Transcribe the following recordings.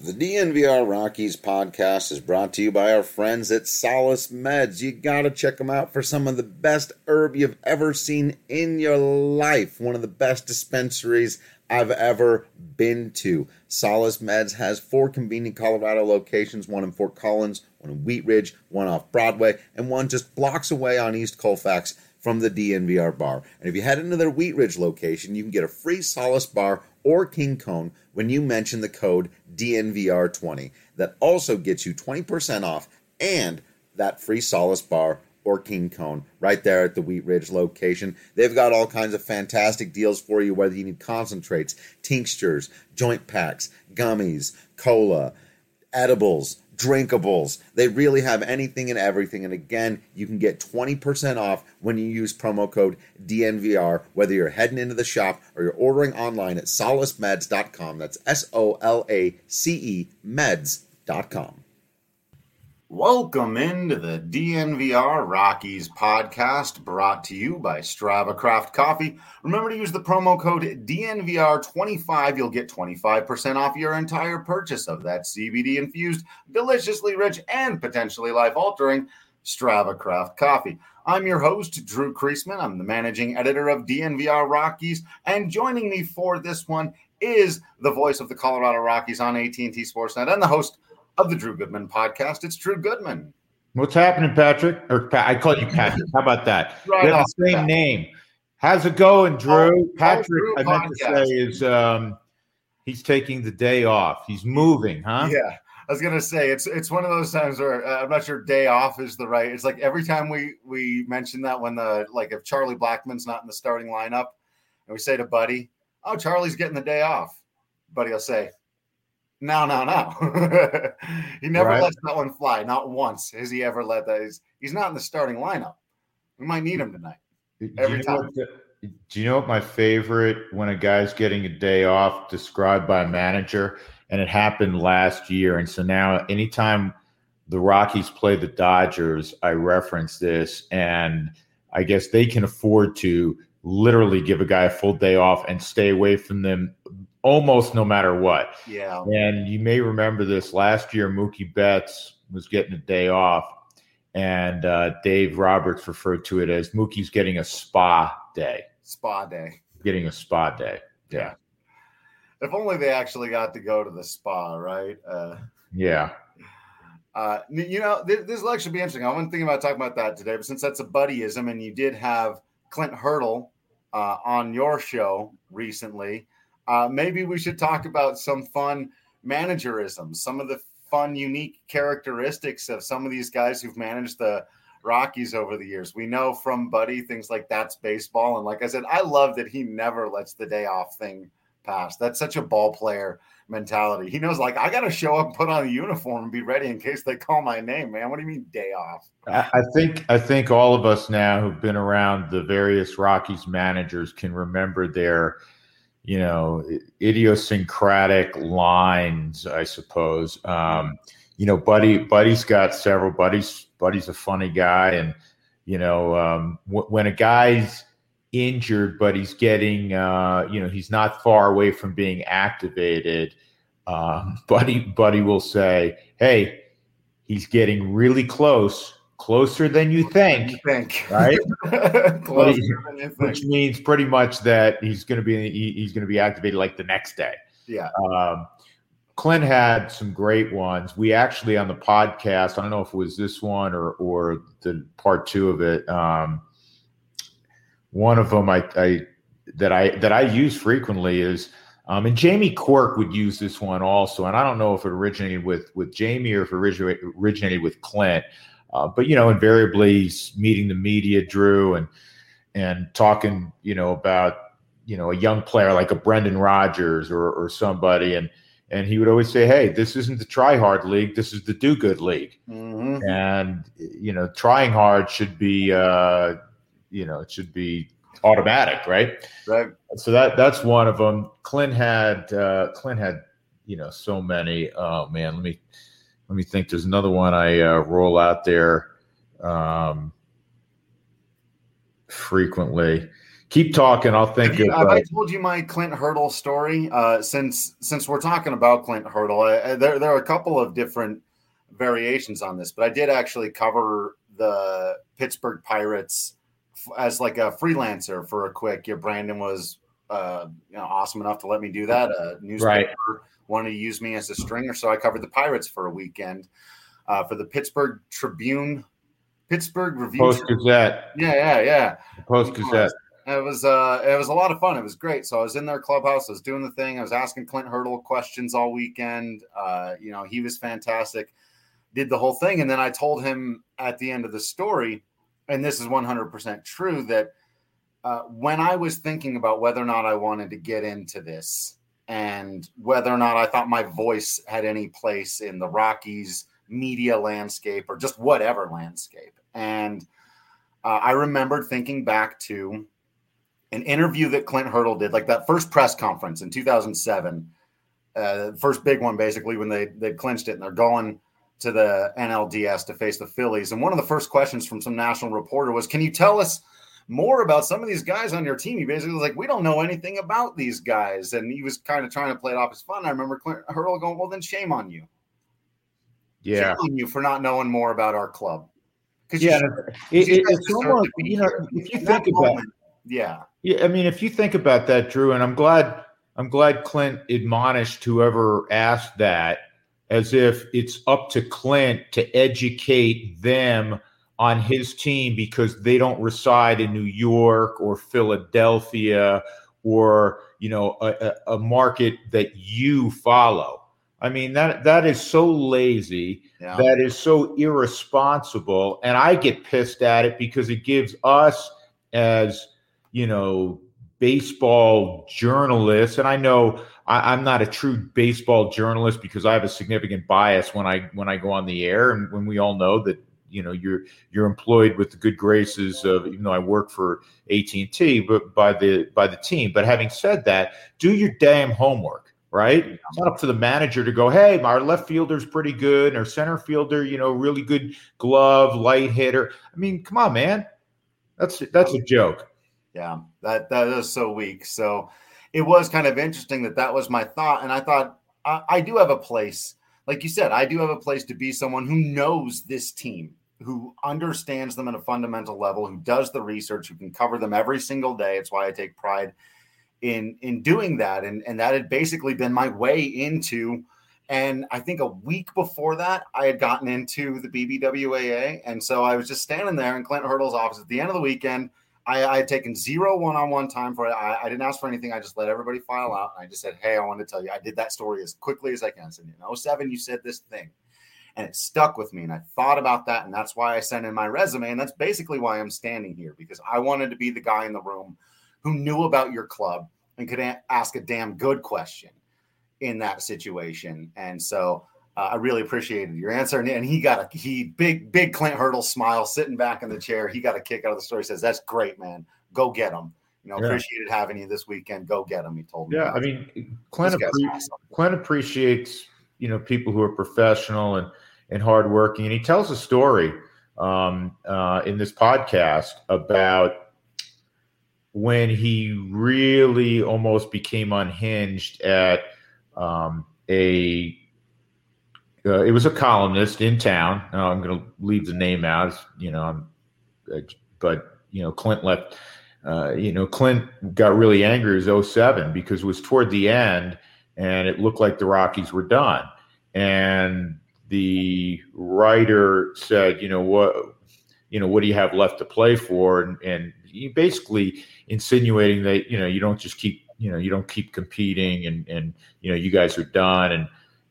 The DNVR Rockies podcast is brought to you by our friends at Solace Meds. You gotta check them out for some of the best herb you've ever seen in your life. One of the best dispensaries I've ever been to. Solace Meds has 4 convenient Colorado locations, one in Fort Collins, one in Wheat Ridge, one off Broadway, and one just blocks away on East Colfax from the DNVR bar. And if you head into their Wheat Ridge location, you can get a free Solace bar or King Cone when you mention the code DNVR20. That also gets you 20% off and that free Solace bar or King Cone right there at the Wheat Ridge location. They've got all kinds of fantastic deals for you, whether you need concentrates, tinctures, joint packs, gummies, cola, edibles, drinkables. They really have anything and everything. And again, you can get 20% off when you use promo code DNVR, whether you're heading into the shop or you're ordering online at solacemeds.com. That's SOLACE meds.com. Welcome into the DNVR Rockies podcast, brought to you by Strava Craft Coffee. Remember to use the promo code DNVR25. You'll get 25% off your entire purchase of that CBD-infused, deliciously rich, and potentially life-altering Strava Craft Coffee. I'm your host, Drew Kreisman. I'm the managing editor of DNVR Rockies, and joining me for this one is the voice of the Colorado Rockies on AT&T Sportsnet and the host of the Drew Goodman podcast. It's Drew Goodman. What's happening, Patrick? I call you Patrick. How about that? Right, we have the same name. How's it going, Drew? Patrick, Drew I meant to say, is he's taking the day off. He's moving, huh? Yeah, I was gonna say it's one of those times where I'm not sure day off is the right. It's like every time we mention that when if Charlie Blackmon's not in the starting lineup, and we say to Buddy, "Oh, Charlie's getting the day off," Buddy will say, No. He never lets that one fly. Not once has he ever let that. He's not in the starting lineup. We might need him tonight. Every time. Do you know what my favorite when a guy's getting a day off described by a manager? And it happened last year. And so now anytime the Rockies play the Dodgers, I reference this. And I guess they can afford to literally give a guy a full day off and stay away from them almost no matter what. Yeah. And you may remember this last year, Mookie Betts was getting a day off, and Dave Roberts referred to it as Mookie's getting a spa day. Spa day. Getting a spa day. Yeah. If only they actually got to go to the spa, right? Yeah. This will actually be interesting. I wasn't thinking about talking about that today, but since that's a buddyism, and you did have Clint Hurdle on your show recently, maybe we should talk about some fun managerisms, some of the fun, unique characteristics of some of these guys who've managed the Rockies over the years. We know from Buddy things like that's baseball. And like I said, I love that he never lets the day off thing pass. That's such a ball player mentality. He knows, I got to show up, put on the uniform, and be ready in case they call my name, man. What do you mean day off? I think all of us now who've been around the various Rockies managers can remember their idiosyncratic lines, I suppose. Buddy's got several. Buddy's a funny guy. And, when a guy's injured, but he's getting, he's not far away from being activated, Buddy will say, hey, he's getting really closer than you think. Right? Which means pretty much that he's going to be activated like the next day. Yeah. Clint had some great ones. We actually on the podcast, I don't know if it was this one or the part 2 of it. One of them that I use frequently is, and Jamie Quirk would use this one also. And I don't know if it originated with Jamie or if it originated with Clint. But invariably he's meeting the media, Drew, and talking, about, a young player like a Brendan Rodgers or somebody. And he would always say, hey, this isn't the try hard league. This is the do good league. Mm-hmm. And, trying hard should be, it should be automatic. Right. Right. So that's one of them. Clint had, so many. Oh man, let me think. There's another one I roll out there frequently. Keep talking. I'll think Have I told you my Clint Hurdle story? Since we're talking about Clint Hurdle, there are a couple of different variations on this, but I did actually cover the Pittsburgh Pirates as like a freelancer for a quick. Brandon was awesome enough to let me do that. A newspaper wanted to use me as a stringer, so I covered the Pirates for a weekend for the Pittsburgh Tribune, Pittsburgh Review, Post-Gazette. Yeah. Post-Gazette. It was a lot of fun. It was great. So I was in their clubhouse. I was doing the thing. I was asking Clint Hurdle questions all weekend. He was fantastic. Did the whole thing. And then I told him at the end of the story, and this is 100% true, that when I was thinking about whether or not I wanted to get into this and whether or not I thought my voice had any place in the Rockies media landscape or just whatever landscape. And I remembered thinking back to an interview that Clint Hurdle did, like that first press conference in 2007, first big one, basically, when they clinched it and they're going to the NLDS to face the Phillies. And one of the first questions from some national reporter was, can you tell us more about some of these guys on your team? He basically was like, we don't know anything about these guys. And he was kind of trying to play it off as fun. I remember Clint Hurdle going, well, then shame on you. Yeah. Shame on you for not knowing more about our club. It's almost, if you think about it. Yeah. I mean, if you think about that, Drew, and I'm glad Clint admonished whoever asked that, as if it's up to Clint to educate them on his team because they don't reside in New York or Philadelphia or, a market that you follow. I mean, that is so lazy. Yeah. That is so irresponsible. And I get pissed at it because it gives us as, baseball journalists. And I know I'm not a true baseball journalist because I have a significant bias when I go on the air. And when we all know that, you're employed with the good graces of, even though I work for AT&T, but by the team. But having said that, do your damn homework. Right? It's not up to the manager to go, hey, our left fielder's pretty good, and our center fielder, really good glove, light hitter. I mean, come on, man. That's a joke. Yeah, that is so weak. So it was kind of interesting that was my thought. And I thought, I do have a place. Like you said, I do have a place to be someone who knows this team, who understands them at a fundamental level, who does the research, who can cover them every single day. It's why I take pride in doing that. And that had basically been my way into, and I think a week before that, I had gotten into the BBWAA. And so I was just standing there in Clint Hurdle's office at the end of the weekend. I had taken 0 one-on-one time for it. I didn't ask for anything. I just let everybody file out. And I just said, hey, I want to tell you, I did that story as quickly as I can. I said, in 2007, you said this thing. And it stuck with me. And I thought about that. And that's why I sent in my resume. And that's basically why I'm standing here, because I wanted to be the guy in the room who knew about your club and could ask a damn good question in that situation. And so I really appreciated your answer. And he big Clint Hurdle smile sitting back in the chair. He got a kick out of the story. He says, that's great, man. Go get him. Appreciated having you this weekend. Go get him. He told me. Yeah. I mean, Clint appreciates, people who are professional and hardworking. And he tells a story in this podcast about when he really almost became unhinged at it was a columnist in town. I'm going to leave the name out, but Clint left. Clint got really angry. It was 2007 because it was toward the end, and it looked like the Rockies were done. And the writer said, what do you have left to play for? And he basically insinuating that, you don't just keep, you don't keep competing and you guys are done.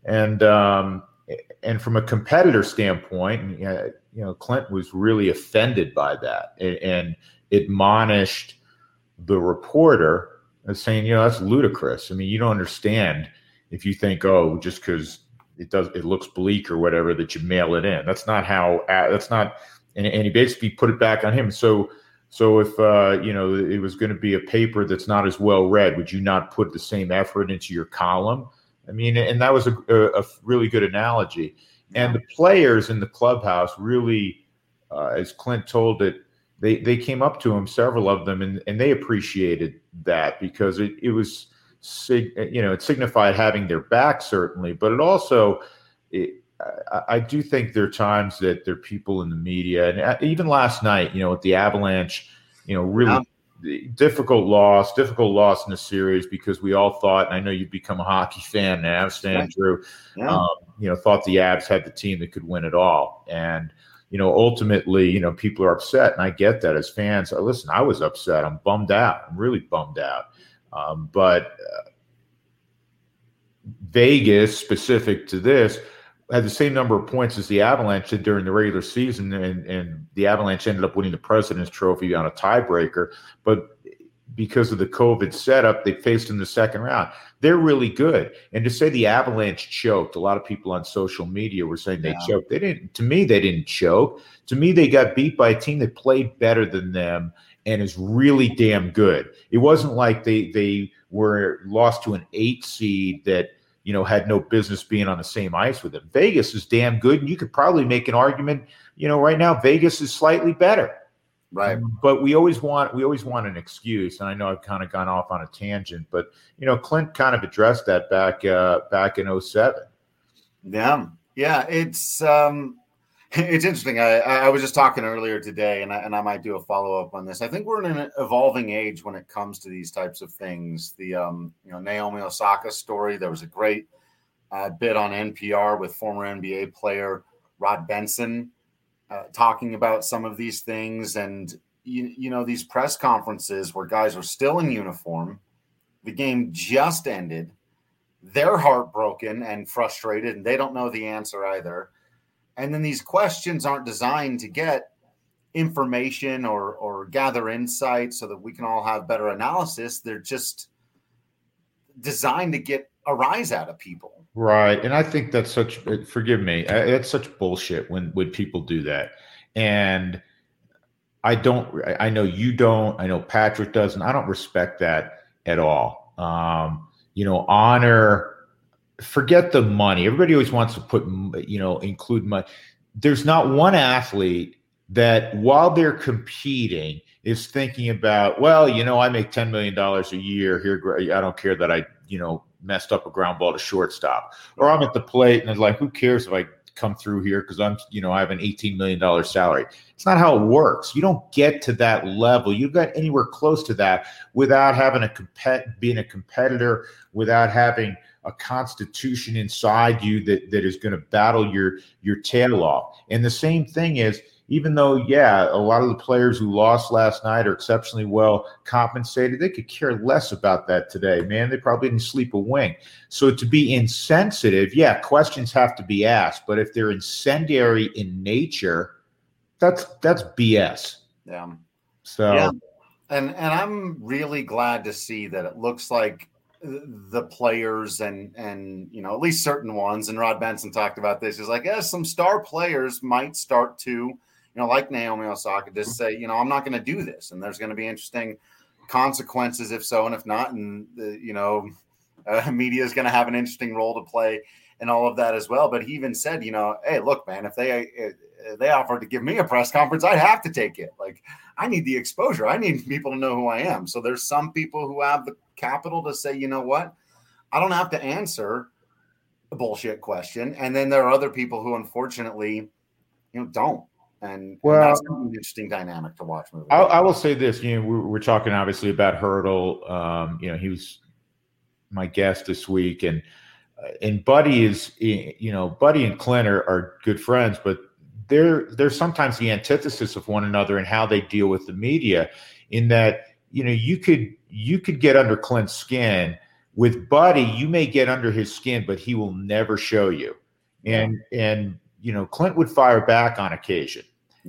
And from a competitor standpoint, Clint was really offended by that and admonished the reporter as saying, that's ludicrous. I mean, you don't understand if you think, just because it looks bleak or whatever, that you mail it in. That's not how. That's not. And he basically put it back on him. So if it was going to be a paper that's not as well read, would you not put the same effort into your column? I mean, and that was a really good analogy. And the players in the clubhouse really, as Clint told it, they came up to him, several of them, and they appreciated that because it was, it signified having their back, certainly, but it also, I do think there are times that there are people in the media, and even last night, with the Avalanche, really difficult loss in the series because we all thought, and I know you've become a hockey fan now, Stan, Drew, thought the Avs had the team that could win it all. And, ultimately, people are upset, and I get that as fans. Listen, I was upset. I'm bummed out. I'm really bummed out. But Vegas, specific to this, had the same number of points as the Avalanche did during the regular season, and the Avalanche ended up winning the President's Trophy on a tiebreaker. But because of the COVID setup, they faced in the second round. They're really good. And to say the Avalanche choked, a lot of people on social media were saying they choked. They didn't. To me, they didn't choke. To me, they got beat by a team that played better than them and is really damn good. It wasn't like they were lost to an 8 seed that had no business being on the same ice with them. Vegas is damn good, and you could probably make an argument. Right now Vegas is slightly better. Right. But we always want an excuse, and I know I've kind of gone off on a tangent, but Clint kind of addressed that back in 2007. Yeah, it's interesting. I was just talking earlier today, and I might do a follow-up on this. I think we're in an evolving age when it comes to these types of things. The Naomi Osaka story, there was a great bit on NPR with former NBA player Rod Benson talking about some of these things, and these press conferences where guys are still in uniform, the game just ended, they're heartbroken and frustrated, and they don't know the answer either. And then these questions aren't designed to get information or gather insight so that we can all have better analysis. They're just designed to get a rise out of people. Right. And I think that's forgive me, it's such bullshit when people do that. And I know you don't, I know Patrick doesn't, I don't respect that at all. Honor, forget the money. Everybody always wants to put, include money. There's not one athlete that while they're competing is thinking about, I make $10 million a year here. I don't care that I, messed up a ground ball to shortstop, or I'm at the plate and it's like, who cares if I come through here because I'm, I have an $18 million salary. It's not how it works. You don't get to that level. You got anywhere close to that without having being a competitor, without having a constitution inside you that is going to battle your tail off. And the same thing is, even though, a lot of the players who lost last night are exceptionally well compensated, they could care less about that today, man. They probably didn't sleep a wink. So to be insensitive, questions have to be asked. But if they're incendiary in nature, that's BS. Yeah. So, and I'm really glad to see that it looks like the players and at least certain ones, and Rod Benson talked about this, is like, some star players might start to, like Naomi Osaka, just say, I'm not going to do this, and there's going to be interesting consequences if so, and if not, and media is going to have an interesting role to play and all of that as well. But he even said, hey, look, man, if they offered to give me a press conference, I'd have to take it. Like, I need the exposure. I need people to know who I am. So there's some people who have the capital to say, you know what, I don't have to answer a bullshit question. And then there are other people who unfortunately, don't. And that's an interesting dynamic to watch. I will say this, we're talking obviously about Hurdle. He was my guest this week, and Buddy is, Buddy and Clint are good friends, but they're sometimes the antithesis of one another in how they deal with the media, in that, you could get under Clint's skin. With Buddy, you may get under his skin, but he will never show you. And Clint would fire back on occasion.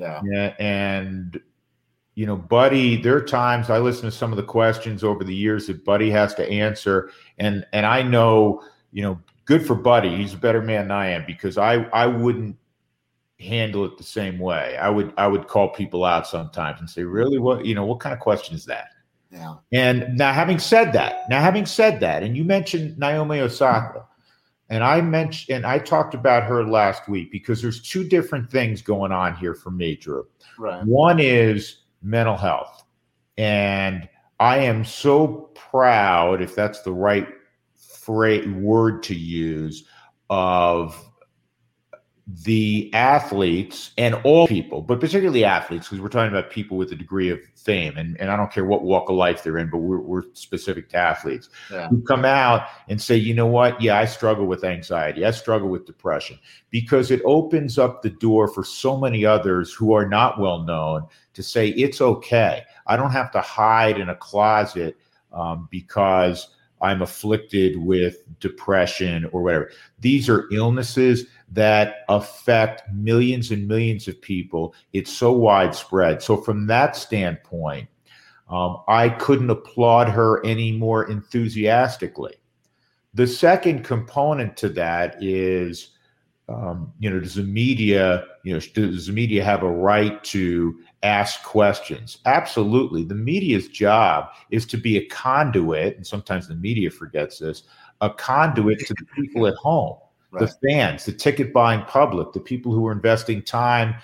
And Buddy, there are times I listen to some of the questions over the years that Buddy has to answer. And I know, good for Buddy. He's a better man than I am, because I wouldn't handle it the same way. I would call people out sometimes and say, really, what kind of question is that? Yeah. And now having said that, and you mentioned Naomi Osaka, and I talked about her last week, because there's two different things going on here for me, Drew. Right. One is mental health. And I am so proud, if that's the right word to use, of the athletes and all people, but particularly athletes, because we're talking about people with a degree of fame, and I don't care what walk of life they're in, but we're specific to athletes who come out and say, you know what? Yeah, I struggle with anxiety. I struggle with depression, because it opens up the door for so many others who are not well known to say, it's okay. I don't have to hide in a closet because I'm afflicted with depression or whatever. These are illnesses that affect millions and millions of people. It's so widespread. So from that standpoint, I couldn't applaud her any more enthusiastically. The second component to that is, does the media have a right to ask questions? Absolutely. The media's job is to be a conduit, and sometimes the media forgets this, a conduit to the people at home, right. The fans, the ticket buying public, the people who are investing time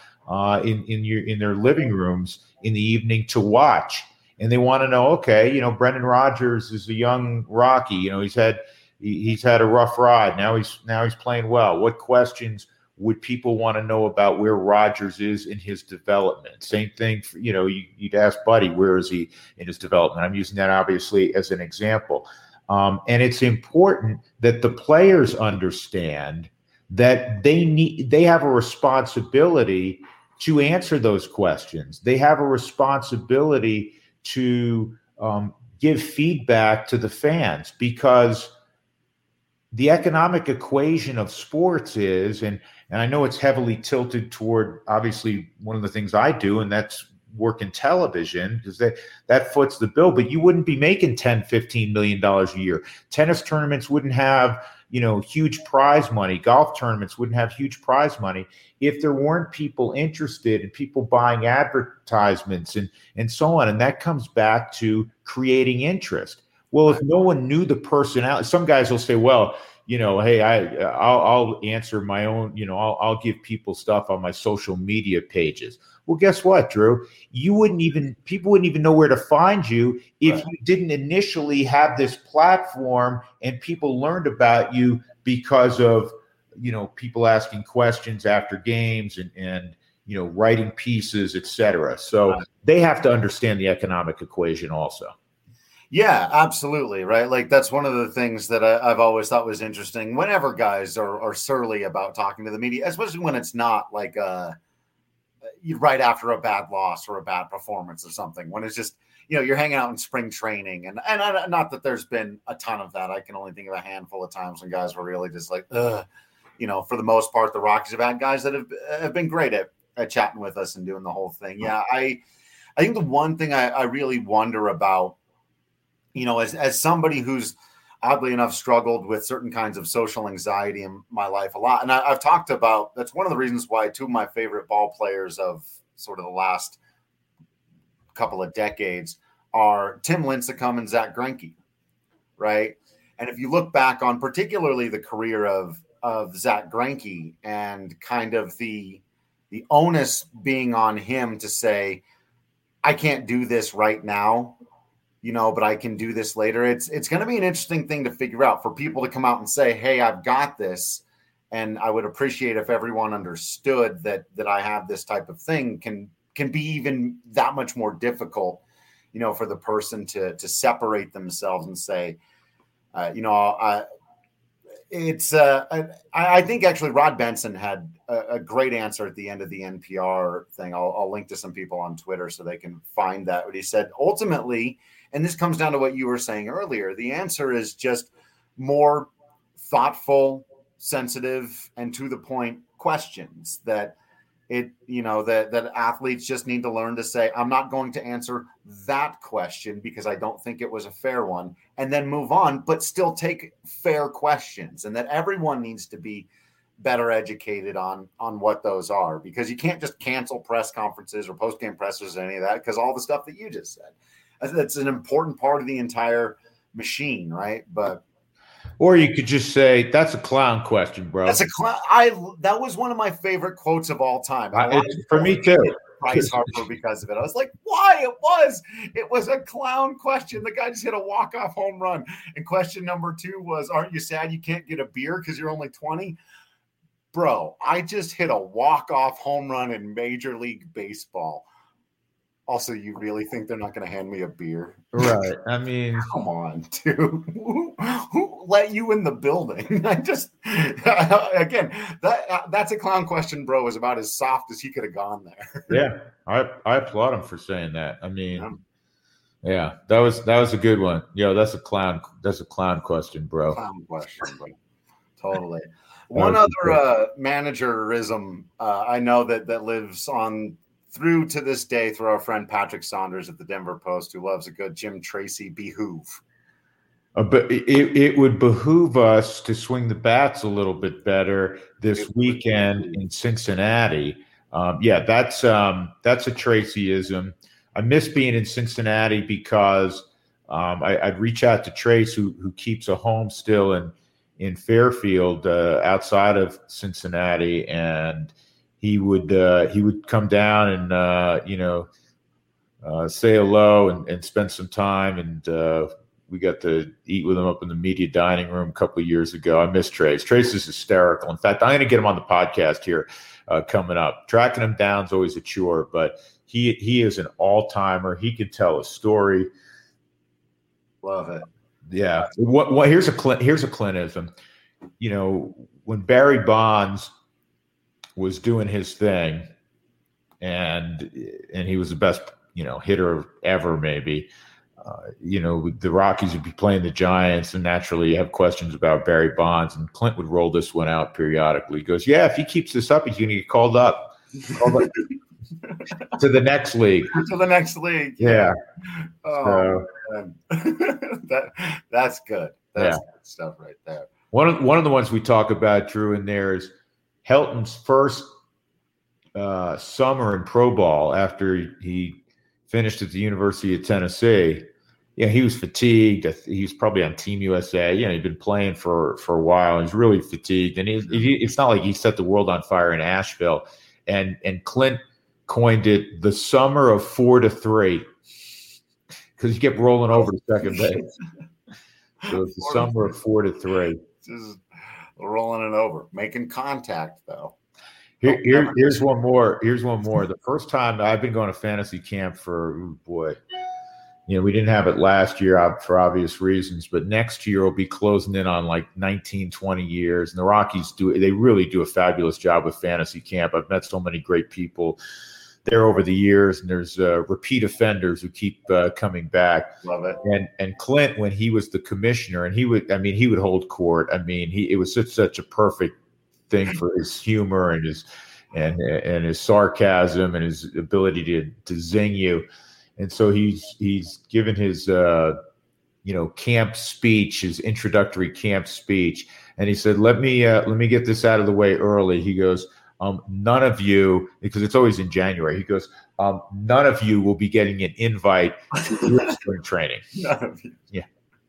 in their living rooms in the evening to watch. And they want to know, okay, Brendan Rodgers is a young Rocky, he's had a rough ride. Now he's playing well. What questions would people want to know about where Rodgers is in his development? Same thing for, you'd ask Buddy, where is he in his development? I'm using that obviously as an example. And it's important that the players understand that they have a responsibility to answer those questions. They have a responsibility to give feedback to the fans, because the economic equation of sports is, and I know it's heavily tilted toward, obviously, one of the things I do, and that's work in television, because that foots the bill. But you wouldn't be making $10, $15 million a year. Tennis tournaments wouldn't have, huge prize money. Golf tournaments wouldn't have huge prize money if there weren't people interested and people buying advertisements and so on. And that comes back to creating interest. Well, if no one knew the personality, some guys will say, well, hey, I'll answer my own, I'll give people stuff on my social media pages. Well, guess what, Drew? People wouldn't even know where to find you if you didn't initially have this platform and people learned about you because of, people asking questions after games and writing pieces, et cetera. So they have to understand the economic equation also. Yeah, absolutely. Right. Like, that's one of the things that I've always thought was interesting whenever guys are surly about talking to the media, especially when it's not like right after a bad loss or a bad performance or something, when it's just, you're hanging out in spring training. And not that there's been a ton of that. I can only think of a handful of times when guys were really just like, for the most part, the Rockies have had guys that have been great at chatting with us and doing the whole thing. Yeah. I think the one thing I really wonder about, as somebody who's oddly enough struggled with certain kinds of social anxiety in my life a lot. And I've talked about, that's one of the reasons why two of my favorite ball players of sort of the last couple of decades are Tim Lincecum and Zach Greinke, right? And if you look back on particularly the career of Zach Greinke and kind of the onus being on him to say, I can't do this right now, but I can do this later. It's going to be an interesting thing to figure out for people to come out and say, hey, I've got this. And I would appreciate if everyone understood that I have this type of thing can be even that much more difficult, for the person to separate themselves and say, I think actually Rod Benson had a great answer at the end of the NPR thing. I'll link to some people on Twitter so they can find that. What he said, ultimately, and this comes down to what you were saying earlier, the answer is just more thoughtful, sensitive, and to the point questions that that athletes just need to learn to say, I'm not going to answer that question because I don't think it was a fair one, and then move on, but still take fair questions, and that everyone needs to be better educated on what those are, because you can't just cancel press conferences or post-game pressers or any of that, because all the stuff that you just said, that's an important part of the entire machine, right? Or you could just say, that's a clown question, bro. That's a clown. That was one of my favorite quotes of all time. For me too. Bryce Harper because of it. I was like, why? It was a clown question. The guy just hit a walk-off home run. And question number 2 was, aren't you sad you can't get a beer because you're only 20? Bro, I just hit a walk-off home run in Major League Baseball. Also, you really think they're not going to hand me a beer? Right. I mean, come on, dude. Who let you in the building? Again, that's a clown question, bro. Is about as soft as he could have gone there. Yeah, I applaud him for saying that. I mean, yeah, that was a good one. Yo, that's a clown question, bro. Clown question, bro. Totally. One other managerism I know that lives on through to this day through our friend Patrick Saunders at the Denver Post, who loves a good Jim Tracy behoove. But it would behoove us to swing the bats a little bit better this weekend in Cincinnati. That's a Tracyism. I miss being in Cincinnati because I'd reach out to Trace, who keeps a home still in Fairfield outside of Cincinnati, and he would come down and say hello and spend some time, and we got to eat with him up in the media dining room a couple of years ago. I miss Trace. Trace is hysterical. In fact, I'm going to get him on the podcast here coming up. Tracking him down is always a chore, but he is an all-timer. He can tell a story. Love it. Yeah. Here's a Clintism. When Barry Bonds was doing his thing, and he was the best, hitter ever, maybe. The Rockies would be playing the Giants, and naturally you have questions about Barry Bonds, and Clint would roll this one out periodically. He goes, yeah, if he keeps this up, he's going to get called up to the next league. To the next league. Yeah. Oh, man. That's good. That's good stuff right there. One of the ones we talk about, Drew, in there is Helton's first summer in pro ball after he finished at the University of Tennessee. Yeah, he was fatigued. He was probably on Team USA. He'd been playing for a while. He's really fatigued, and it's not like he set the world on fire in Asheville. And Clint coined it the summer of 4 to 3 because he kept rolling over to second base. So it's the summer of 4 to 3. Just rolling it over, making contact though. Here's one more. The first time I've been going to fantasy camp for, we didn't have it last year for obvious reasons, but next year we'll be closing in on like 19, 20 years. And the Rockies they really do a fabulous job with fantasy camp. I've met so many great people there over the years, and there's repeat offenders who keep coming back. Love it. And Clint, when he was the commissioner, and he would hold court. It was such a perfect thing for his humor and his sarcasm and his ability to zing you. And so he's given his camp speech, his introductory camp speech, and he said, "Let me get this out of the way early." He goes, "None of you," because it's always in January. He goes, "None of you will be getting an invite to your spring training." None of you. Yeah.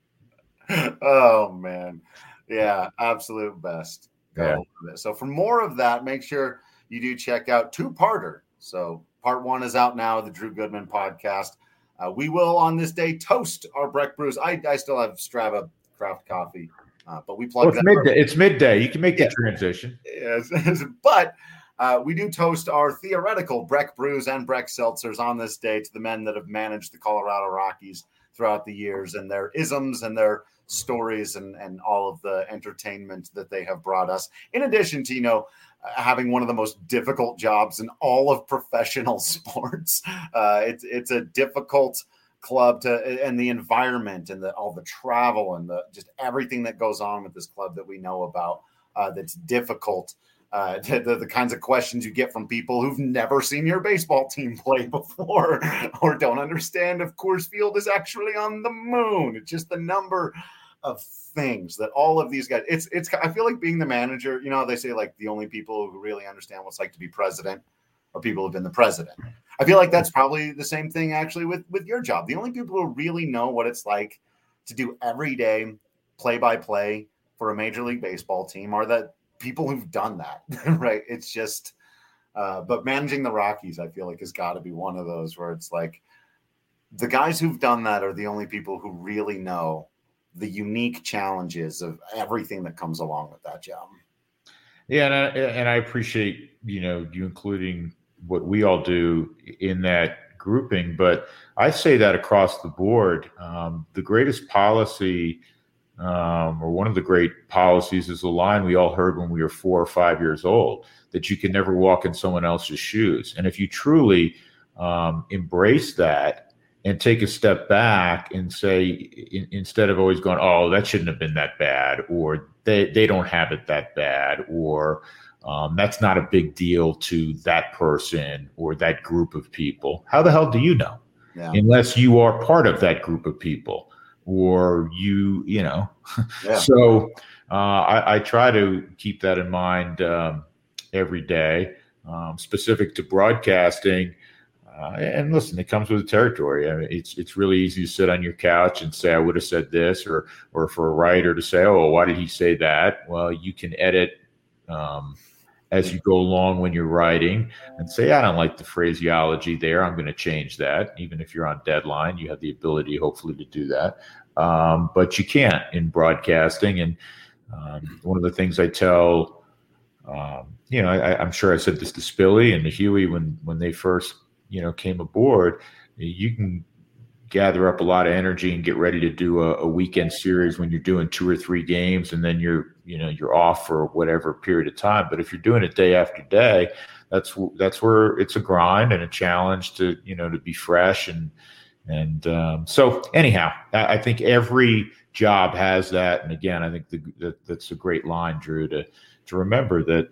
Oh man, yeah, absolute best. Yeah. So for more of that, make sure you do check out two-parter. So part 1 is out now, the Drew Goodman podcast. We will on this day toast our Breck Brews. I still have Strava craft coffee, but we plug that. Midday. It's midday. You can make the transition. Yes, but we do toast our theoretical Breck Brews and Breck Seltzers on this day to the men that have managed the Colorado Rockies throughout the years, and their isms and their stories and all of the entertainment that they have brought us, in addition to having one of the most difficult jobs in all of professional sports. It's a difficult club and the environment and all the travel and just everything that goes on with this club that we know about, that's difficult. The kinds of questions you get from people who've never seen your baseball team play before or don't understand if Coors Field is actually on the moon. It's just the number of things that all of these guys, I feel like being the manager, they say like the only people who really understand what it's like to be president are people who've been the president. I feel like that's probably the same thing actually with your job. The only people who really know what it's like to do everyday play-by-play for a Major League Baseball team are the people who've done that, right? It's just But managing the Rockies, I feel like, has got to be one of those where it's like the guys who've done that are the only people who really know the unique challenges of everything that comes along with that job. Yeah, and I appreciate, you including what we all do in that grouping, but I say that across the board. The greatest policy, or one of the great policies, is the line we all heard when we were 4 or 5 years old, that you can never walk in someone else's shoes. And if you truly embrace that and take a step back and say, instead of always going, oh, that shouldn't have been that bad, or they don't have it that bad, or that's not a big deal to that person or that group of people. How the hell do you know? Yeah. Unless you are part of that group of people, or Yeah. So I try to keep that in mind every day, specific to broadcasting. And listen, it comes with the territory. I mean, it's really easy to sit on your couch and say, I would have said this, or for a writer to say, oh, why did he say that? Well, you can edit as you go along when you're writing and say, I don't like the phraseology there. I'm going to change that. Even if you're on deadline, you have the ability, hopefully, to do that. But you can't in broadcasting. And one of the things I tell, I'm sure I said this to Spilly and to Huey when they first came aboard, you can gather up a lot of energy and get ready to do a weekend series when you're doing 2 or 3 games, and then you're off for whatever period of time. But if you're doing it day after day, that's where it's a grind and a challenge to be fresh. And so anyhow, I think every job has that. And again, I think that's a great line, Drew, to remember that,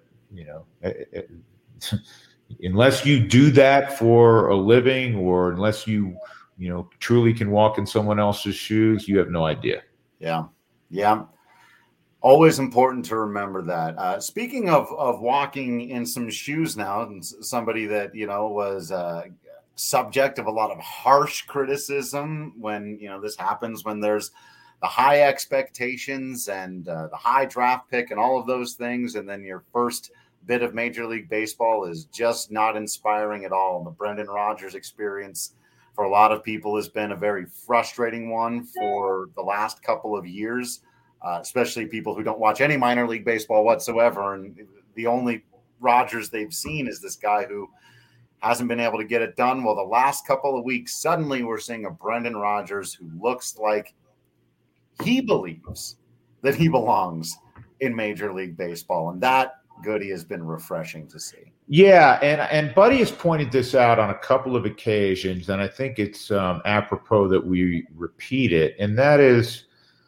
unless you do that for a living, or unless you truly can walk in someone else's shoes, you have no idea. Yeah. Always important to remember that. Speaking of walking in some shoes now, and somebody that, was subject of a lot of harsh criticism when, this happens, when there's the high expectations and the high draft pick and all of those things, and then your first bit of Major League Baseball is just not inspiring at all. And the Brendan Rodgers experience for a lot of people has been a very frustrating one for the last couple of years, especially people who don't watch any minor league baseball whatsoever. And the only Rodgers they've seen is this guy who hasn't been able to get it done. Well, the last couple of weeks, suddenly we're seeing a Brendan Rodgers who looks like he believes that he belongs in Major League Baseball. And that goodie has been refreshing to see. Yeah, and Buddy has pointed this out on a couple of occasions, and I think it's apropos that we repeat it, and that is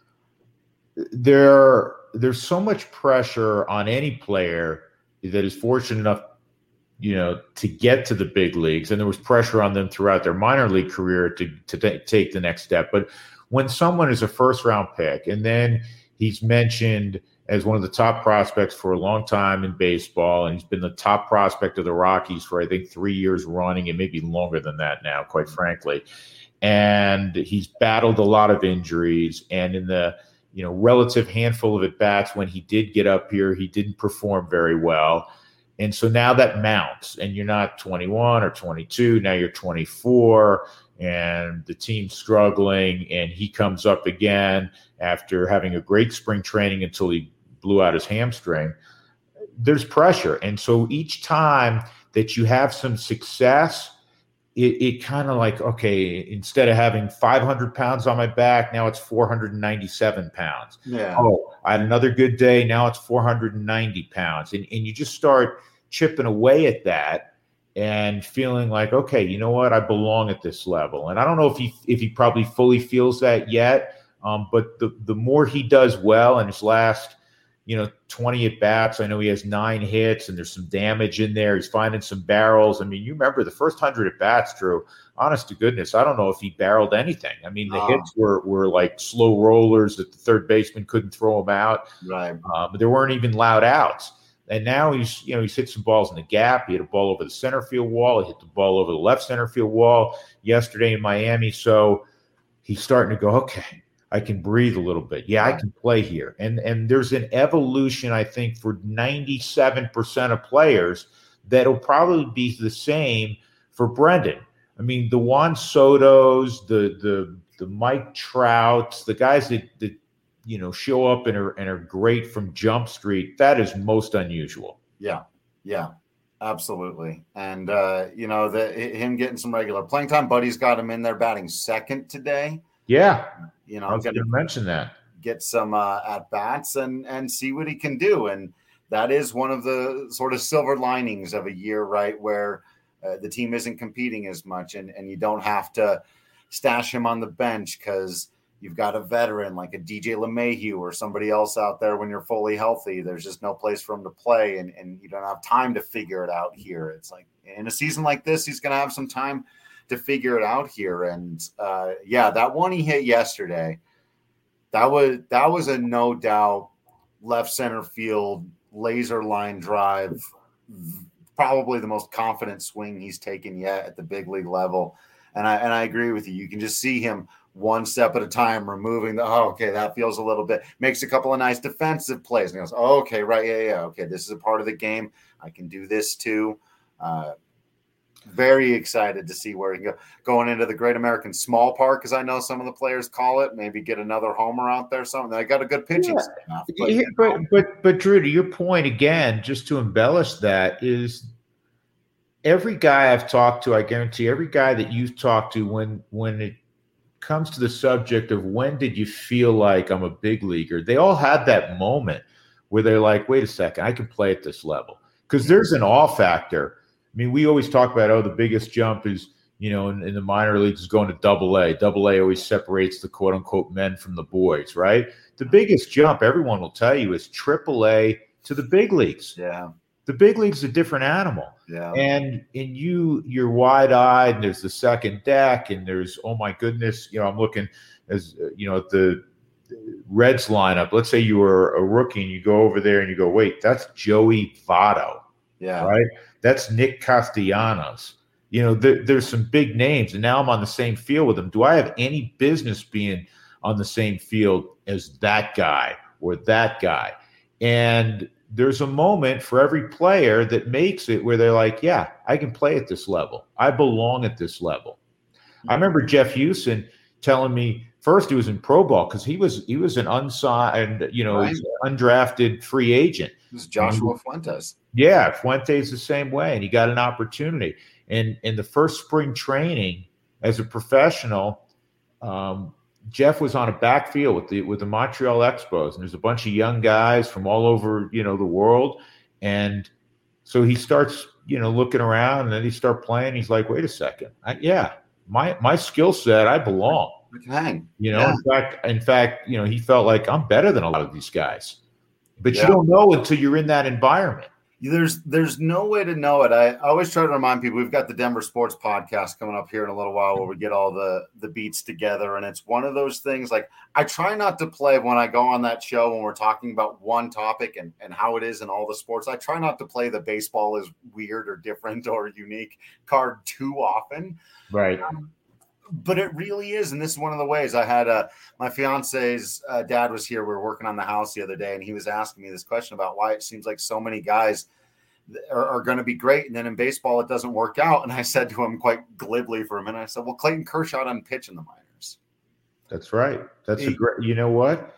there's so much pressure on any player that is fortunate enough, to get to the big leagues, and there was pressure on them throughout their minor league career to take the next step. But when someone is a first-round pick, and then he's mentioned as one of the top prospects for a long time in baseball, and he's been the top prospect of the Rockies for, I think, 3 years running, and maybe longer than that now, quite frankly. And he's battled a lot of injuries, and in the relative handful of at-bats when he did get up here, he didn't perform very well. And so now that mounts, and you're not 21 or 22, now you're 24, and the team's struggling, and he comes up again after having a great spring training until he blew out his hamstring. There's pressure. And so each time that you have some success, it kind of like, okay, instead of having 500 pounds on my back, now it's 497 pounds. Yeah. Oh, I had another good day. Now it's 490 pounds. And you just start chipping away at that and feeling like, okay, you know what? I belong at this level. And I don't know if he probably fully feels that yet. But the more he does well in his last, 20 at bats, I know he has 9 hits and there's some damage in there. He's finding some barrels. I mean, you remember the first 100 at bats, Drew, honest to goodness, I don't know if he barreled anything. I mean, the hits were like slow rollers that the third baseman couldn't throw him out. Right. But there weren't even loud outs. And now he's hit some balls in the gap. He hit a ball over the center field wall. He hit the ball over the left center field wall yesterday in Miami. So he's starting to go, okay, I can breathe a little bit. Yeah, I can play here. And there's an evolution, I think, for 97% of players that'll probably be the same for Brendan. I mean, the Juan Sotos, the Mike Trouts, the guys that show up and are great from Jump Street, that is most unusual. Yeah, absolutely. And him getting some regular playing time. Buddy's got him in there batting second today. Yeah, I was going to mention that. Get some at bats and see what he can do. And that is one of the sort of silver linings of a year, right, where the team isn't competing as much, and you don't have to stash him on the bench because you've got a veteran like a DJ LeMahieu or somebody else out there when you're fully healthy. There's just no place for him to play, and you don't have time to figure it out here. It's like in a season like this, he's going to have some time to figure it out here. And that one he hit yesterday, that was a no doubt left center field laser line drive, probably the most confident swing he's taken yet at the big league level. And I agree with you. You can just see him one step at a time, removing that feels a little bit, makes a couple of nice defensive plays. And he goes, okay, right. Yeah. Okay. This is a part of the game. I can do this too. Very excited to see where he can go going into the Great American Small Park, as I know some of the players call it. Maybe get another homer out there. Something. I got a good pitching staff. But Drew, to your point again, just to embellish that, is every guy I've talked to, I guarantee every guy that you've talked to, when it comes to the subject of when did you feel like I'm a big leaguer, they all had that moment where they're like, wait a second, I can play at this level. Because there's an awe factor. I mean, we always talk about, the biggest jump is, in the minor leagues is going to AA. AA always separates the quote unquote men from the boys, right? The biggest jump, everyone will tell you, is AAA to the big leagues. Yeah. The big league's a different animal. Yeah. And you're wide eyed, and there's the second deck, and there's, oh my goodness, I'm looking at the Reds lineup. Let's say you were a rookie and you go over there and you go, wait, that's Joey Votto. Yeah. Right. That's Nick Castellanos. There's some big names, and now I'm on the same field with them. Do I have any business being on the same field as that guy or that guy? And there's a moment for every player that makes it where they're like, yeah, I can play at this level. I belong at this level. I remember Jeff Houston telling me, first he was in pro ball because he was an unsigned, undrafted free agent. This is Joshua Fuentes. Yeah, Fuentes the same way, and he got an opportunity. And in the first spring training as a professional, Jeff was on a backfield with the Montreal Expos, and there's a bunch of young guys from all over the world, and so he starts looking around, and then he starts playing. He's like, wait a second, my skill set, I belong. Hang. In fact, he felt like I'm better than a lot of these guys, but you don't know until you're in that environment. There's no way to know it. I always try to remind people we've got the Denver Sports Podcast coming up here in a little while where we get all the beats together. And it's one of those things, like, I try not to play when I go on that show when we're talking about one topic and how it is in all the sports. I try not to play the baseball is weird or different or unique card too often. Right. But it really is. And this is one of the ways. I had my fiance's dad was here. We were working on the house the other day, and he was asking me this question about why it seems like so many guys are going to be great, and then in baseball it doesn't work out. And I said to him quite glibly for a minute, I said, well, Clayton Kershaw doesn't pitch in the minors. That's right. That's a great, you know what?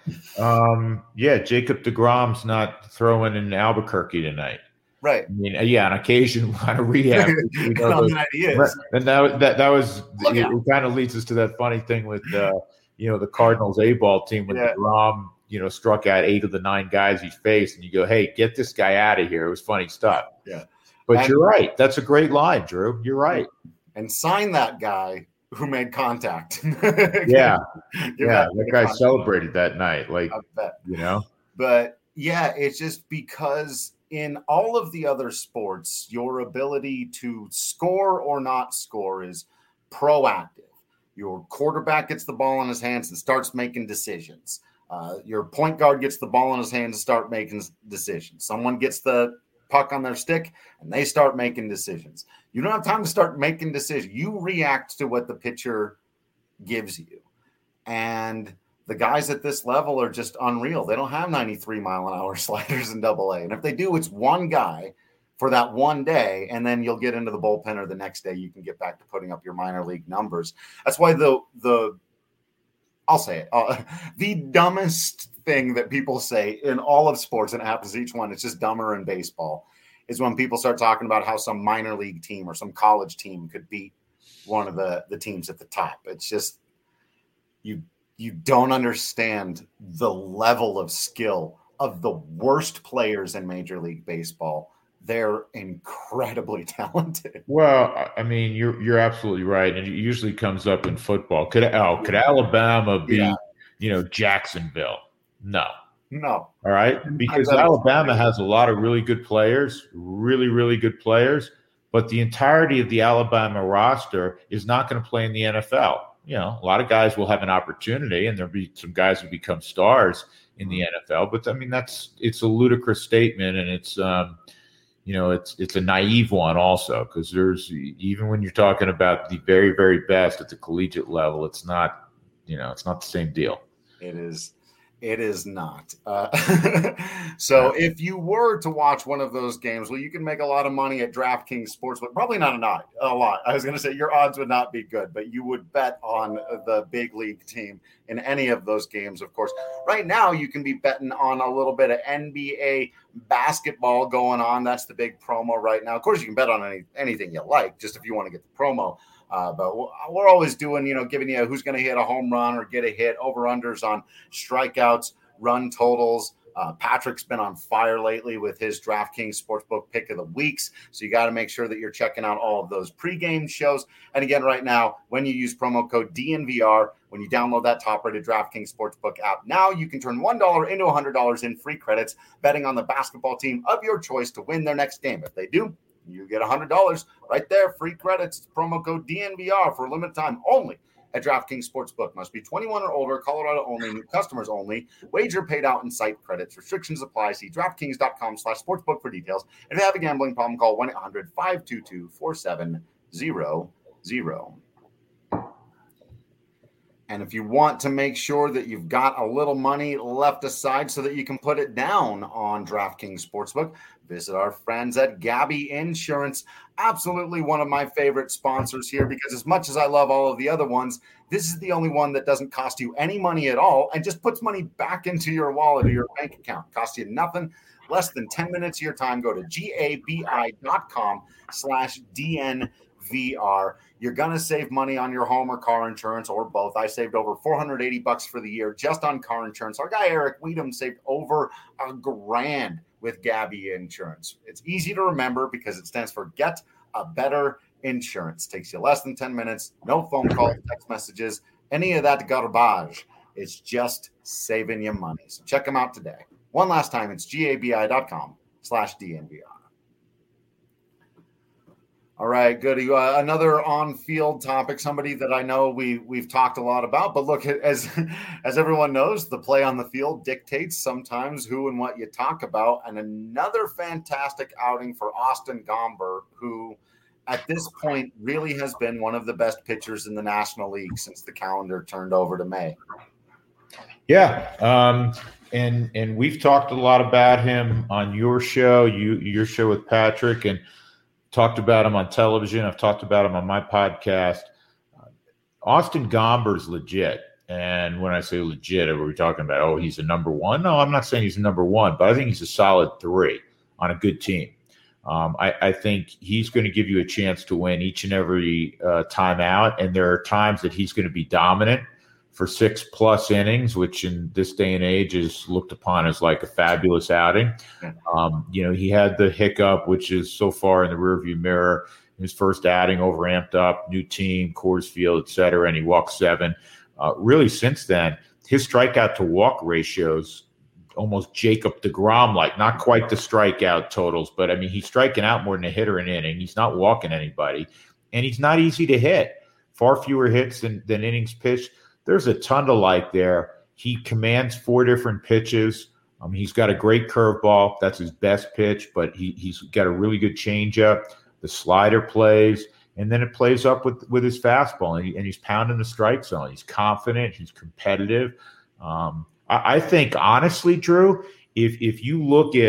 Jacob DeGrom's not throwing in Albuquerque tonight. Right. I mean, on occasion, on a rehab. And that was it kind of leads us to that funny thing with, the Cardinals A-ball team when DeGrom, struck out 8 of the 9 guys he faced, and you go, hey, get this guy out of here. It was funny stuff. Yeah. But you're right. That's a great line, Drew. You're right. And sign that guy who made contact. That guy celebrated that night. Like, I bet. But, it's just because in all of the other sports, your ability to score or not score is proactive. Your quarterback gets the ball in his hands and starts making decisions. Your point guard gets the ball in his hands and start making decisions. Someone gets the puck on their stick and they start making decisions. You don't have time to start making decisions. You react to what the pitcher gives you. And the guys at this level are just unreal. They don't have 93-mile-an-hour sliders in AA. And if they do, it's one guy for that one day, and then you'll get into the bullpen, or the next day you can get back to putting up your minor league numbers. That's why I'll say it, the dumbest thing that people say in all of sports, and it happens each one, it's just dumber in baseball, is when people start talking about how some minor league team or some college team could beat one of the teams at the top. It's just, you don't understand the level of skill of the worst players in Major League Baseball. They're incredibly talented. Well, I mean, you're absolutely right, and it usually comes up in football. Could Alabama beat Jacksonville? No. All right, because Alabama has a lot of really good players, really, really good players, but the entirety of the Alabama roster is not going to play in the NFL. A lot of guys will have an opportunity, and there'll be some guys who become stars in the NFL. But I mean, it's a ludicrous statement, and it's it's a naive one also, because there's, even when you're talking about the very, very best at the collegiate level, it's not the same deal. It is not. So if you were to watch one of those games, well, you can make a lot of money at DraftKings Sportsbook. Probably not a lot. I was going to say your odds would not be good, but you would bet on the big league team in any of those games, of course. Right now, you can be betting on a little bit of NBA basketball going on. That's the big promo right now. Of course, you can bet on anything you like, just if you want to get the promo. But we're always doing, giving you who's going to hit a home run or get a hit, over-unders on strikeouts, run totals. Patrick's been on fire lately with his DraftKings Sportsbook pick of the weeks. So you got to make sure that you're checking out all of those pregame shows. And again, right now, when you use promo code DNVR, when you download that top-rated DraftKings Sportsbook app, now you can turn $1 into $100 in free credits betting on the basketball team of your choice to win their next game. If they do, you get $100 right there, free credits. Promo code DNVR for a limited time only at DraftKings Sportsbook. Must be 21 or older, Colorado only, new customers only. Wager paid out in site credits. Restrictions apply. See DraftKings.com/sportsbook for details. If you have a gambling problem, call 1-800-522-4700. And if you want to make sure that you've got a little money left aside so that you can put it down on DraftKings Sportsbook, visit our friends at Gabi Insurance. Absolutely one of my favorite sponsors here, because as much as I love all of the other ones, this is the only one that doesn't cost you any money at all and just puts money back into your wallet or your bank account. Costs you nothing, less than 10 minutes of your time. Go to gabi.com/DNVR. You're going to save money on your home or car insurance, or both. I saved over $480 for the year just on car insurance. Our guy, Eric Weedham, saved over $1,000 with Gabi Insurance. It's easy to remember because it stands for Get a Better Insurance. Takes you less than 10 minutes, no phone calls, text messages, any of that garbage. It's just saving you money. So check them out today. One last time, it's gabi.com/DNVR. All right, good. Another on-field topic, somebody that I know we've talked a lot about. But look, as everyone knows, the play on the field dictates sometimes who and what you talk about. And another fantastic outing for Austin Gomber, who at this point really has been one of the best pitchers in the National League since the calendar turned over to May. Yeah, and we've talked a lot about him on your show, your show with Patrick, and talked about him on television. I've talked about him on my podcast. Austin Gomber's legit. And when I say legit, are we talking about, oh, he's a number one? No, I'm not saying he's a number one, but I think he's a solid 3 on a good team. I think he's going to give you a chance to win each and every time out. And there are times that he's going to be dominant for 6+ innings, which in this day and age is looked upon as like a fabulous outing. He had the hiccup, which is so far in the rearview mirror. His first outing, overamped up, new team, Coors Field, et cetera, and he walked 7. Really, since then, his strikeout to walk ratios almost Jacob deGrom like, not quite the strikeout totals, but I mean, he's striking out more than a hitter an inning. He's not walking anybody, and he's not easy to hit. Far fewer hits than innings pitched. There's a ton to like there. He commands 4 different pitches. He's got a great curveball. That's his best pitch, but he's got a really good changeup. The slider plays, and then it plays up with his fastball, and he's pounding the strike zone. He's confident. He's competitive. I think, honestly, Drew, if you look at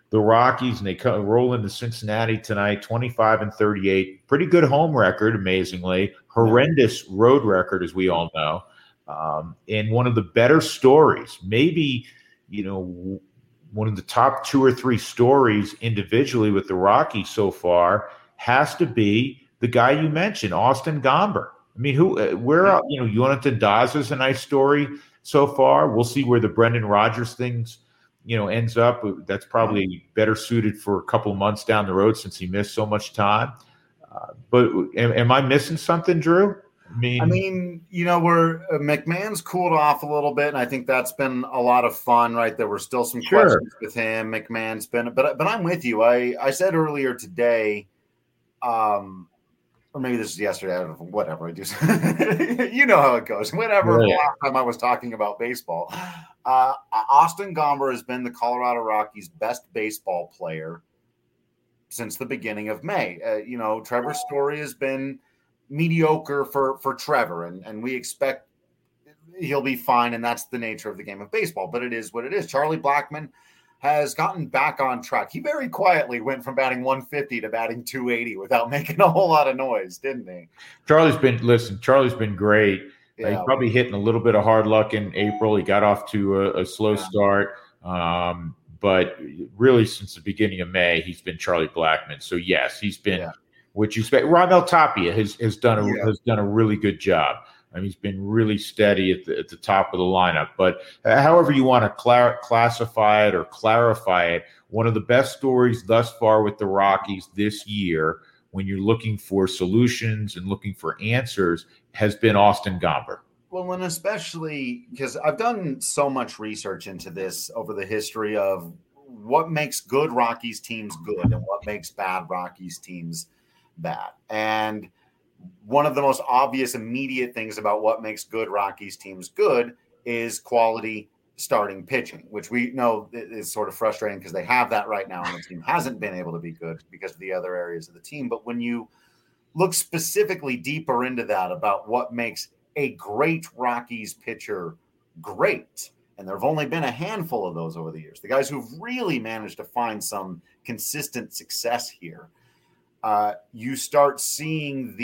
the Rockies, and they roll into Cincinnati tonight, 25-38. Pretty good home record, amazingly. Horrendous road record, as we all know. And one of the better stories, maybe, one of the top 2 or 3 stories individually with the Rockies so far has to be the guy you mentioned, Austin Gomber. I mean, Jonathan Daza's a nice story so far. We'll see where the Brendan Rodgers things, ends up. That's probably better suited for a couple of months down the road since he missed so much time. But am I missing something, Drew? I mean, where McMahon's cooled off a little bit, and I think that's been a lot of fun, right? There were still some questions with him. McMahon's been, but I'm with you. I said earlier today, or maybe this is yesterday. I don't know, whatever. I just, you know how it goes. Whenever the last time I was talking about baseball, Austin Gomber has been the Colorado Rockies' best baseball player since the beginning of May. Trevor Story has been mediocre for Trevor, and we expect he'll be fine, and that's the nature of the game of baseball. But it is what it is. Charlie Blackmon has gotten back on track. He very quietly went from batting 150 to batting 280 without making a whole lot of noise, didn't he? Charlie's been great. Yeah. He's probably hitting a little bit of hard luck in April. He got off to a slow start. But really since the beginning of May, he's been Charlie Blackmon. So yes, he's been what you expect. Raimel Tapia has done a really good job. I mean, he's been really steady at the top of the lineup. But however you want to classify it or clarify it, one of the best stories thus far with the Rockies this year, when you're looking for solutions and looking for answers, has been Austin Gomber. Well, and especially because I've done so much research into this over the history of what makes good Rockies teams good and what makes bad Rockies teams bad. And one of the most obvious immediate things about what makes good Rockies teams good is quality starting pitching, which we know is sort of frustrating because they have that right now and the team hasn't been able to be good because of the other areas of the team. But when you look specifically deeper into that about what makes a great Rockies pitcher great, and there have only been a handful of those over the years, the guys who've really managed to find some consistent success here, you start seeing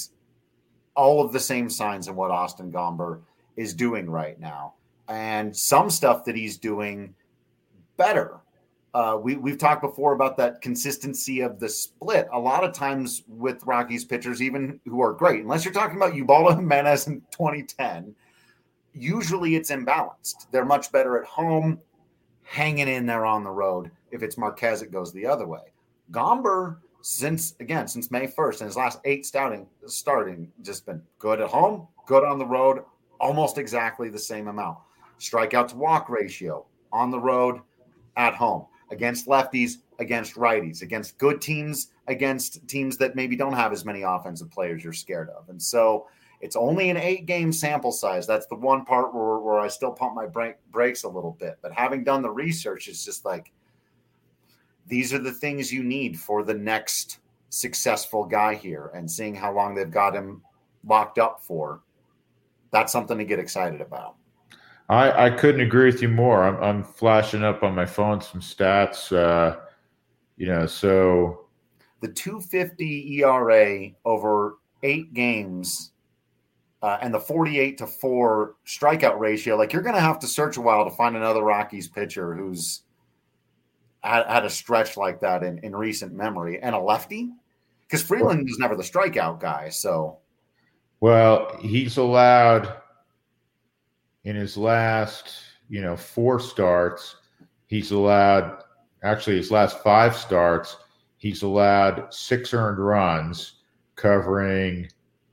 all of the same signs in what Austin Gomber is doing right now. And some stuff that he's doing better. We've talked before about that consistency of the split. A lot of times with Rockies pitchers, even who are great, unless you're talking about Ubaldo Jimenez in 2010, usually it's imbalanced. They're much better at home, hanging in there on the road. If it's Marquez, it goes the other way. Gomber, since May 1st, in his last 8 starting, just been good at home, good on the road, almost exactly the same amount. Strikeout to walk ratio on the road, at home, against lefties, against righties, against good teams, against teams that maybe don't have as many offensive players you're scared of. And so it's only an 8-game sample size. That's the one part where I still pump my brakes a little bit. But having done the research, it's just like, these are the things you need for the next successful guy here, and seeing how long they've got him locked up for, that's something to get excited about. I couldn't agree with you more. I'm flashing up on my phone some stats, so the 2.50 ERA over 8 games and the 48-4 strikeout ratio. Like, you're going to have to search a while to find another Rockies pitcher who's had a stretch like that in recent memory, and a lefty, because Freeland was never the strikeout guy. So, well, he's allowed in his last, 4 starts, his last 5 starts, he's allowed 6 earned runs covering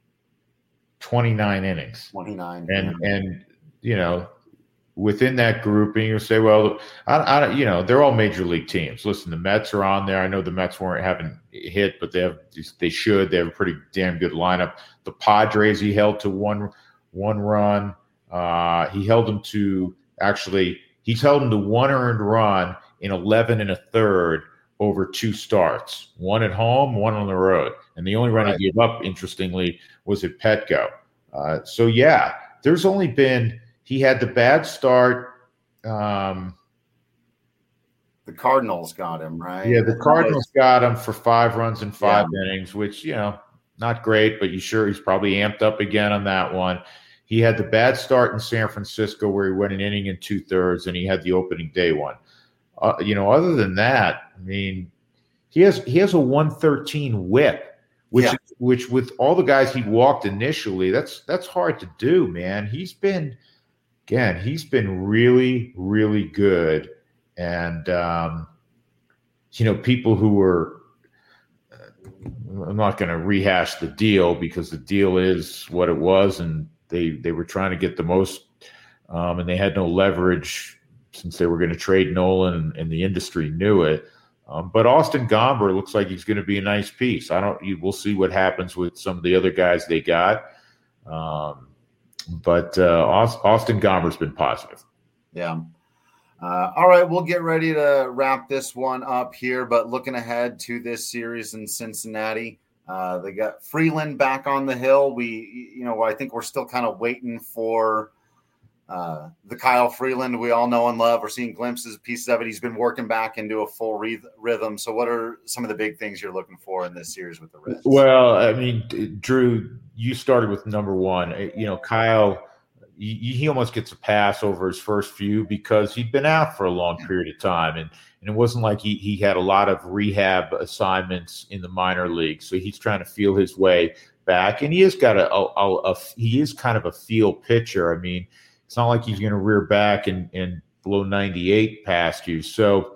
29 innings. 29. And within that grouping, you say, well, they're all major league teams. Listen, the Mets are on there. I know the Mets haven't hit, but they should. They have a pretty damn good lineup. The Padres, he held to one run. He's held them to 1 earned run in 11 1/3 over 2 starts, 1 at home, 1 on the road. And the only run he gave up, interestingly, was at Petco. There's only been, he had the bad start The Cardinals got him, right? Yeah, the Cardinals got him for 5 runs in 5 innings, which, not great, but he's probably amped up again on that one. He had the bad start in San Francisco where he went an inning and 2/3, and he had the opening day one. Other than that, I mean, he has a 113 whip, which with all the guys he walked initially, that's hard to do, man. He's been really, really good. And, people who were, I'm not going to rehash the deal because the deal is what it was. And they were trying to get the most, and they had no leverage since they were going to trade Nolan and the industry knew it. But Austin Gomber looks like he's going to be a nice piece. We'll see what happens with some of the other guys they got. But Austin Gomber's been positive. Yeah. All right, we'll get ready to wrap this one up here, but looking ahead to this series in Cincinnati, they got Freeland back on the hill. I think we're still kind of waiting for the Kyle Freeland we all know and love. We're seeing glimpses, pieces of it. He's been working back into a full rhythm. So what are some of the big things you're looking for in this series with the Reds? Well, I mean, Drew, you started with number one. Kyle, he almost gets a pass over his first few because he'd been out for a long period of time. And it wasn't like he had a lot of rehab assignments in the minor league. So he's trying to feel his way back. And he has got he is kind of a feel pitcher. I mean, it's not like he's going to rear back and blow 98 past you. So,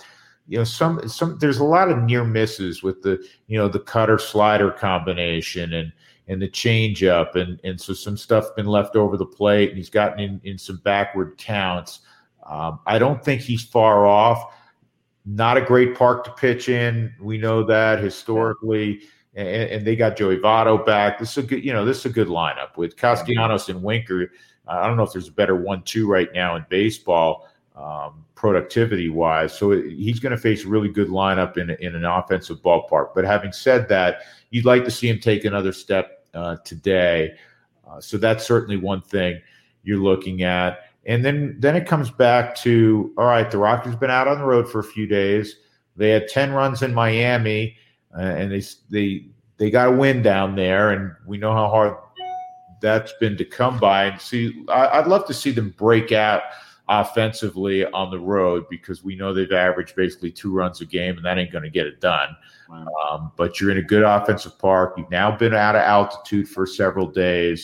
there's a lot of near misses with the cutter slider combination and the change up. And so some stuff been left over the plate and he's gotten in some backward counts. I don't think he's far off. Not a great park to pitch in. We know that historically, and they got Joey Votto back. This is a good lineup with Castellanos and Winker. I don't know if there's a better 1-2 right now in baseball, productivity-wise. So he's going to face a really good lineup in an offensive ballpark. But having said that, you'd like to see him take another step today. So that's certainly one thing you're looking at. And then it comes back to, all right, the Rockies have been out on the road for a few days. They had 10 runs in Miami, and they got a win down there, and we know how hard that's been to come by. And see, I'd love to see them break out offensively on the road because we know they've averaged basically 2 runs a game, and that ain't going to get it done. Wow. But you're in a good offensive park. You've now been out of altitude for several days.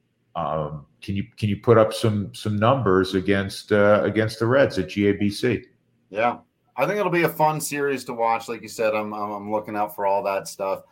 Can you put up some numbers against the Reds at GABC? Yeah, I think it'll be a fun series to watch. Like you said, I'm looking out for all that stuff.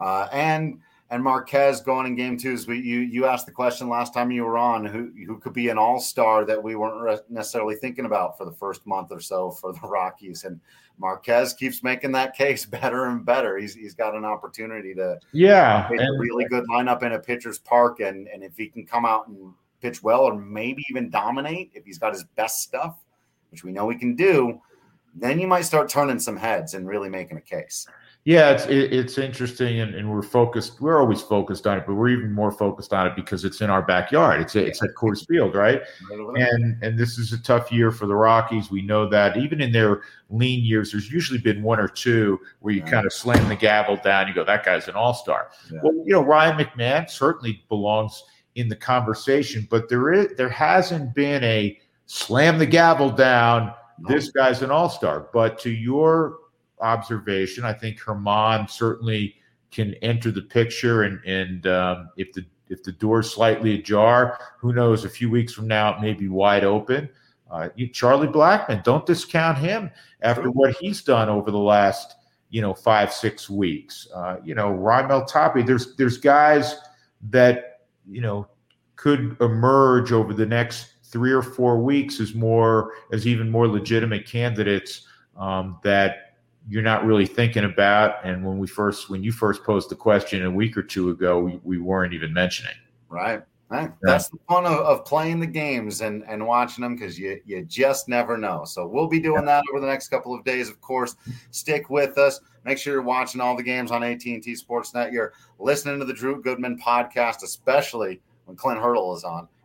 And Marquez going in game 2. You asked the question last time you were on, who could be an all-star that we weren't necessarily thinking about for the first month or so for the Rockies. And Marquez keeps making that case better and better. He's got an opportunity to make a really good lineup in a pitcher's park. And if he can come out and pitch well or maybe even dominate, if he's got his best stuff, which we know he can do, then you might start turning some heads and really making a case. Yeah, it's interesting, and we're focused. We're always focused on it, but we're even more focused on it because it's in our backyard. It's at Coors Field, right? And this is a tough year for the Rockies. We know that. Even in their lean years, there's usually been 1 or 2 where you kind of slam the gavel down. You go, that guy's an all-star. Yeah. Well, Ryan McMahon certainly belongs in the conversation, but there hasn't been a slam the gavel down. This guy's an all-star. But to your observation, I think Herman certainly can enter the picture, and if the door's slightly ajar, who knows? A few weeks from now, it may be wide open. Charlie Blackmon, don't discount him after what he's done over the last 5-6 weeks. Raimel Tapia. There's guys that could emerge over the next 3 or 4 weeks as even more legitimate candidates that you're not really thinking about. And when you first posed the question a week or 2 ago, we weren't even mentioning. Right. That's the fun of playing the games and watching them, because you just never know. So we'll be doing that over the next couple of days, of course. Stick with us. Make sure you're watching all the games on AT&T Sportsnet. You're listening to the Drew Goodman podcast, especially when Clint Hurdle is on.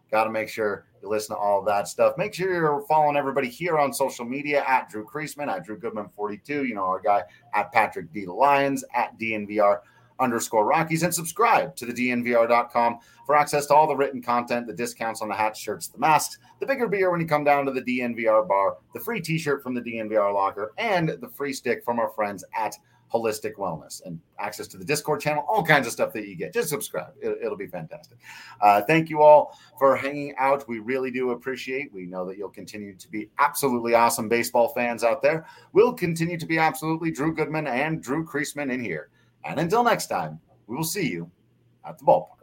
Got to make sure you listen to all of that stuff. Make sure you're following everybody here on social media at Drew Creasman, at Drew Goodman42, you know, our guy at Patrick D. Lyons, at DNVR_Rockies, and subscribe to the DNVR.com for access to all the written content, the discounts on the hats, shirts, the masks, the bigger beer when you come down to the DNVR bar, the free t-shirt from the DNVR locker, and the free stick from our friends at Holistic Wellness, and access to the Discord channel, all kinds of stuff that you get. Just subscribe. It'll be fantastic. Thank you all for hanging out. We really do appreciate. We know that you'll continue to be absolutely awesome baseball fans out there. We'll continue to be absolutely Drew Goodman and Drew Creasman in here. And until next time, we will see you at the ballpark.